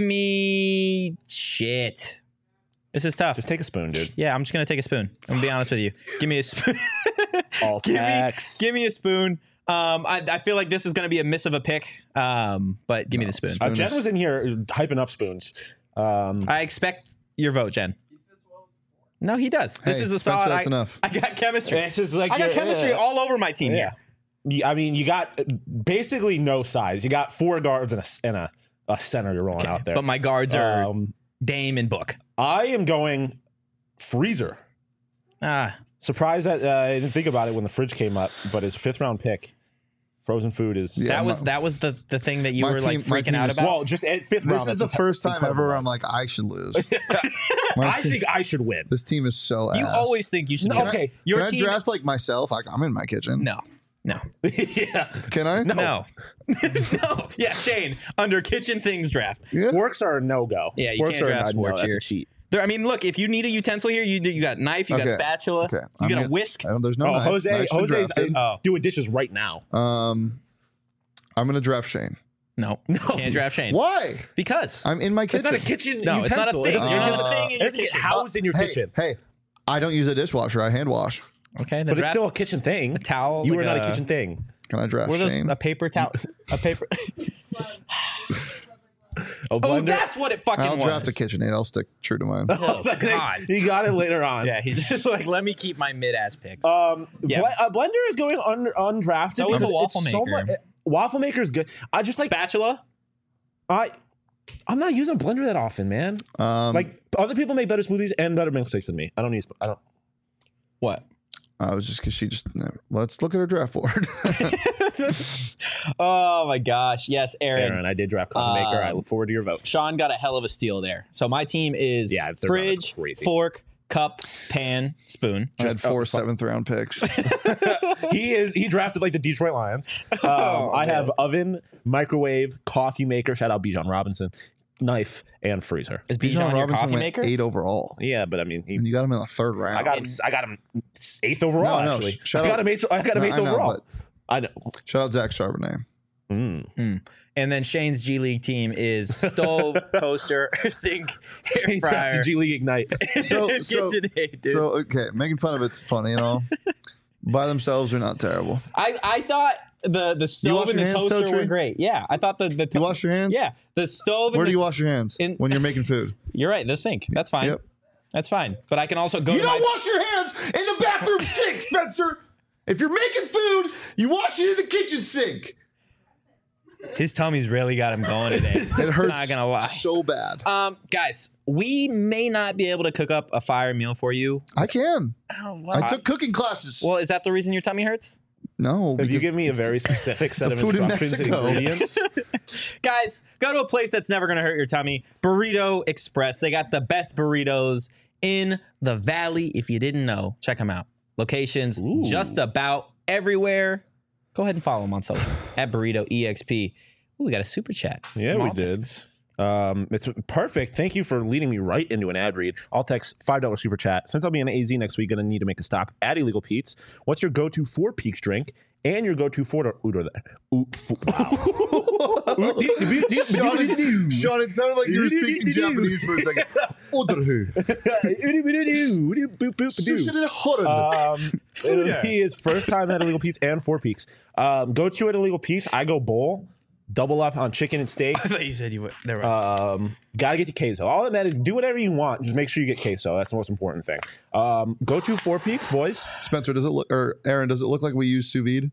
me shit. This is tough. Just take a spoon, dude. Yeah, I'm just gonna take a spoon. I'm gonna be honest with you. Give me a spoon. All give me, tax. give me a spoon. Um, I, I feel like this is gonna be a miss of a pick. Um, but give me the spoon. Uh, Jen was in here hyping up spoons. Um, I expect your vote, Jen. No, he does. This Hey, is a Spencer, solid. that's I, enough. I got chemistry. This is like I got your- chemistry yeah. all over my team. Yeah. You- I mean, you got basically no size. You got four guards and a and a, a center you're rolling out there. But my guards are Um, Dame and Book. I am going freezer. Ah, Surprised that uh, I didn't think about it when the fridge came up, but his fifth round pick, frozen food is. Yeah, that was my- that was the the thing that you my were like team- my freaking team out is- about. Well, just at fifth round. This is that's the first time incredible. ever I'm like, I should lose. My I team- think I should win. this team is so you ass. always think you should. No, do okay. that. Your Can team. I draft like myself? Like, I'm in my kitchen. No, no, yeah. Can I? no, no. Yeah, Shane under kitchen things draft. Yeah. Sporks are a no go. Yeah, you can't draft sporks That's here. a cheat. There, I mean, look, if you need a utensil here, you do- you got knife, you got Okay. spatula, Okay. you I'm got a gonna- whisk. I don't, there's no Oh, knife. Jose, Knife's been Jose's drafted. Oh. doing dishes right now. Um, I'm gonna draft Shane. No, No. can't draft Shane. Why? Because I'm in my It's kitchen. not a kitchen No, it's not a utensil. thing. It doesn't, You're it just doesn't- a thing in it your doesn't get kitchen. housed in your hey, kitchen. Hey, I don't use a dishwasher. I hand wash. okay, then But it's draft still a kitchen thing. a towel. You like are not a a kitchen thing. Can I draft What are those? Shane? A paper towel. A paper. A Oh, blender. that's what it fucking I'll was. draft a KitchenAid. I'll stick true to mine. Oh, it's like, God. he got it later on. Yeah, he's just like, let me keep my mid ass picks. Um, Yeah. Ble- uh, Blender is going un- undrafted. So is a because waffle it's so maker. mu- waffle maker is good. I just like Spatula. I. I'm not using Blender that often, man. Um, Like other people make better smoothies and better milkshakes than me. I don't use. I don't. What? I was just because she just. no. Let's look at her draft board. Oh my gosh! Yes, Aaron. Aaron, I did draft coffee maker. I Um, look forward to your vote. Sean got a hell of a steal there. So my team is Yeah, third round is fridge, crazy. fork, cup, pan, spoon. I had Just- oh, four fuck. seventh round picks. he is. He drafted like the Detroit Lions. Um, Oh, I man. have oven, microwave, coffee maker. Shout out Bijan Robinson, knife, and freezer. Is Bijan Bijan your Robinson coffee went maker? eight overall, Yeah, but I mean, he, and you got him in the third round. I got him. I got him eighth overall. No, no, actually, sh- shout I got out- him eighth. I got him No, eighth I know, overall. but- I know. Shout out Zach Charbonnet. Mm. And then Shane's G League team is stove, toaster, sink, air fryer, The G League Ignite. So- and so- KitchenAid, dude. So okay, making fun of it's funny and all. By themselves, are not terrible. I, I thought the the stove wash and your the hands, toaster Totri? were great. Yeah, I thought the the to- You wash your hands? Yeah, the stove. And Where the, do you wash your hands in- when you're making food? You're right. The sink. That's fine. Yep. That's fine. But I can also go. You to don't my, wash your hands in the bathroom sink, Spencer. If you're making food, you wash it in the kitchen sink. His tummy's really got him going today. It hurts Not gonna lie. so bad. Um, guys, we may not be able to cook up a fire meal for you. I can. Oh, well, I took cooking classes. well, is that the reason your tummy hurts? no, If you because give me a very specific set the of food in instructions and Mexico. ingredients, Guys, go to a place that's never going to hurt your tummy. Burrito Express. They got the best burritos in the valley. If you didn't know, check them out. Locations Ooh. just about everywhere. Go ahead and follow them on social at Burrito E X P. Ooh, we got a super chat. yeah, from we Altex. did. Um, it's perfect. Thank you for leading me right into an ad read. I'll text five dollar super chat. Since I'll be in A Z next week, gonna need to make a stop at Illegal Pete's. What's your go to Four Peaks drink and your go to Four Udor there? Ooh, fo- wow. Sean, it, Sean, it sounded like you were speaking Japanese for a second. Oderhu. Sushi de horen. Um, it'll be his first time at Illegal Pete's and Four Peaks. Um, go to at Illegal Pete's. I go bowl, double up on chicken and steak. I thought you said you would. Never mind. Um, gotta get the queso. All that matters, do whatever you want. Just make sure you get queso. That's the most important thing. Um, go to Four Peaks, boys. Spencer, does it look, or Aaron, does it look like we use sous vide?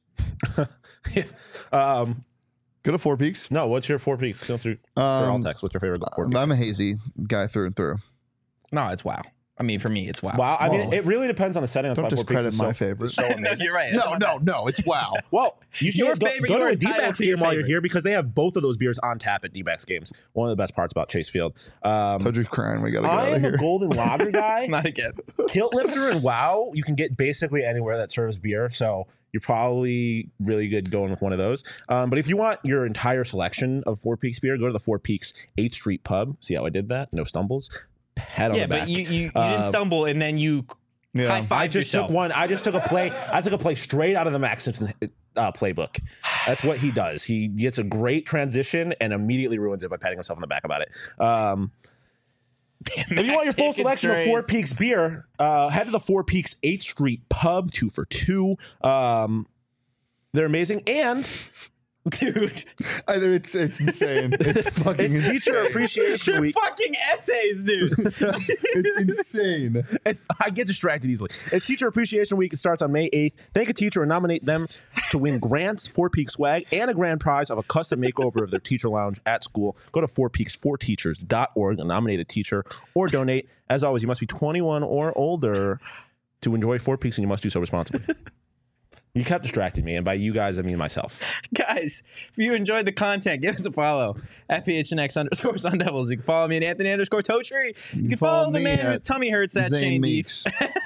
um, Go to Four Peaks. no, what's your Four Peaks? Go through for all Um, text. What's your favorite Four Peaks? I'm a hazy guy through and through. no, it's wow. I mean, for me, it's wow. Wow, I mean, Whoa. it really depends on the setting. That's Don't why Four Peaks discredit is so, my favorite. is so no, amazing. you're right. No, no, no. It's wow. Well, you should Your go, favorite, go you to are a entitled D-backs to your game while you're favorite. here because they have both of those beers on tap at D-backs games. One of the best parts about Chase Field. Um, Told you crying. We gotta get I out of am here. a golden lager guy. Not again. Kilt Lifter and WoW, you can get basically anywhere that serves beer. So you're probably really good going with one of those. Um, but if you want your entire selection of Four Peaks beer, go to the Four Peaks eighth Street Pub. See how I did that? No stumbles. Pat on Yeah, the back. but you, you, you Uh, didn't stumble and then you Yeah. high five I just yourself. took one. I just took a play. I took a play straight out of the Max Simpson uh, playbook. That's what he does. He gets a great transition and immediately ruins it by patting himself on the back about it. Um, if you want your full selection of Four Peaks beer, uh, head to the Four Peaks eighth Street Pub, two for two. Um, they're amazing. And Dude, Either it's it's insane. It's fucking It's Teacher insane. Appreciation your Week. fucking essays, dude. It's insane. It's, I get distracted easily. It's Teacher Appreciation Week. It starts on May eighth. Thank a teacher and nominate them to win grants, Four Peaks swag, and a grand prize of a custom makeover of their teacher lounge at school. Go to four peaks for teachers dot org and nominate a teacher or donate. As always, you must be twenty-one or older to enjoy Four Peaks, and you must do so responsibly. You kept distracting me, and by you guys, I mean myself. Guys, if you enjoyed the content, give us a follow at P H N X underscore Sun Devils. You can follow me at Anthony underscore Totri. You can follow, the me man at whose tummy hurts at Zane Shane Beef. Meeks.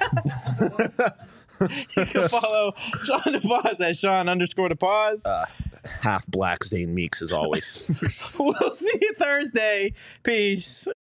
You can follow Sean DePause at Sean underscore DePause. Uh, half black Zane Meeks, as always. We'll see you Thursday. Peace.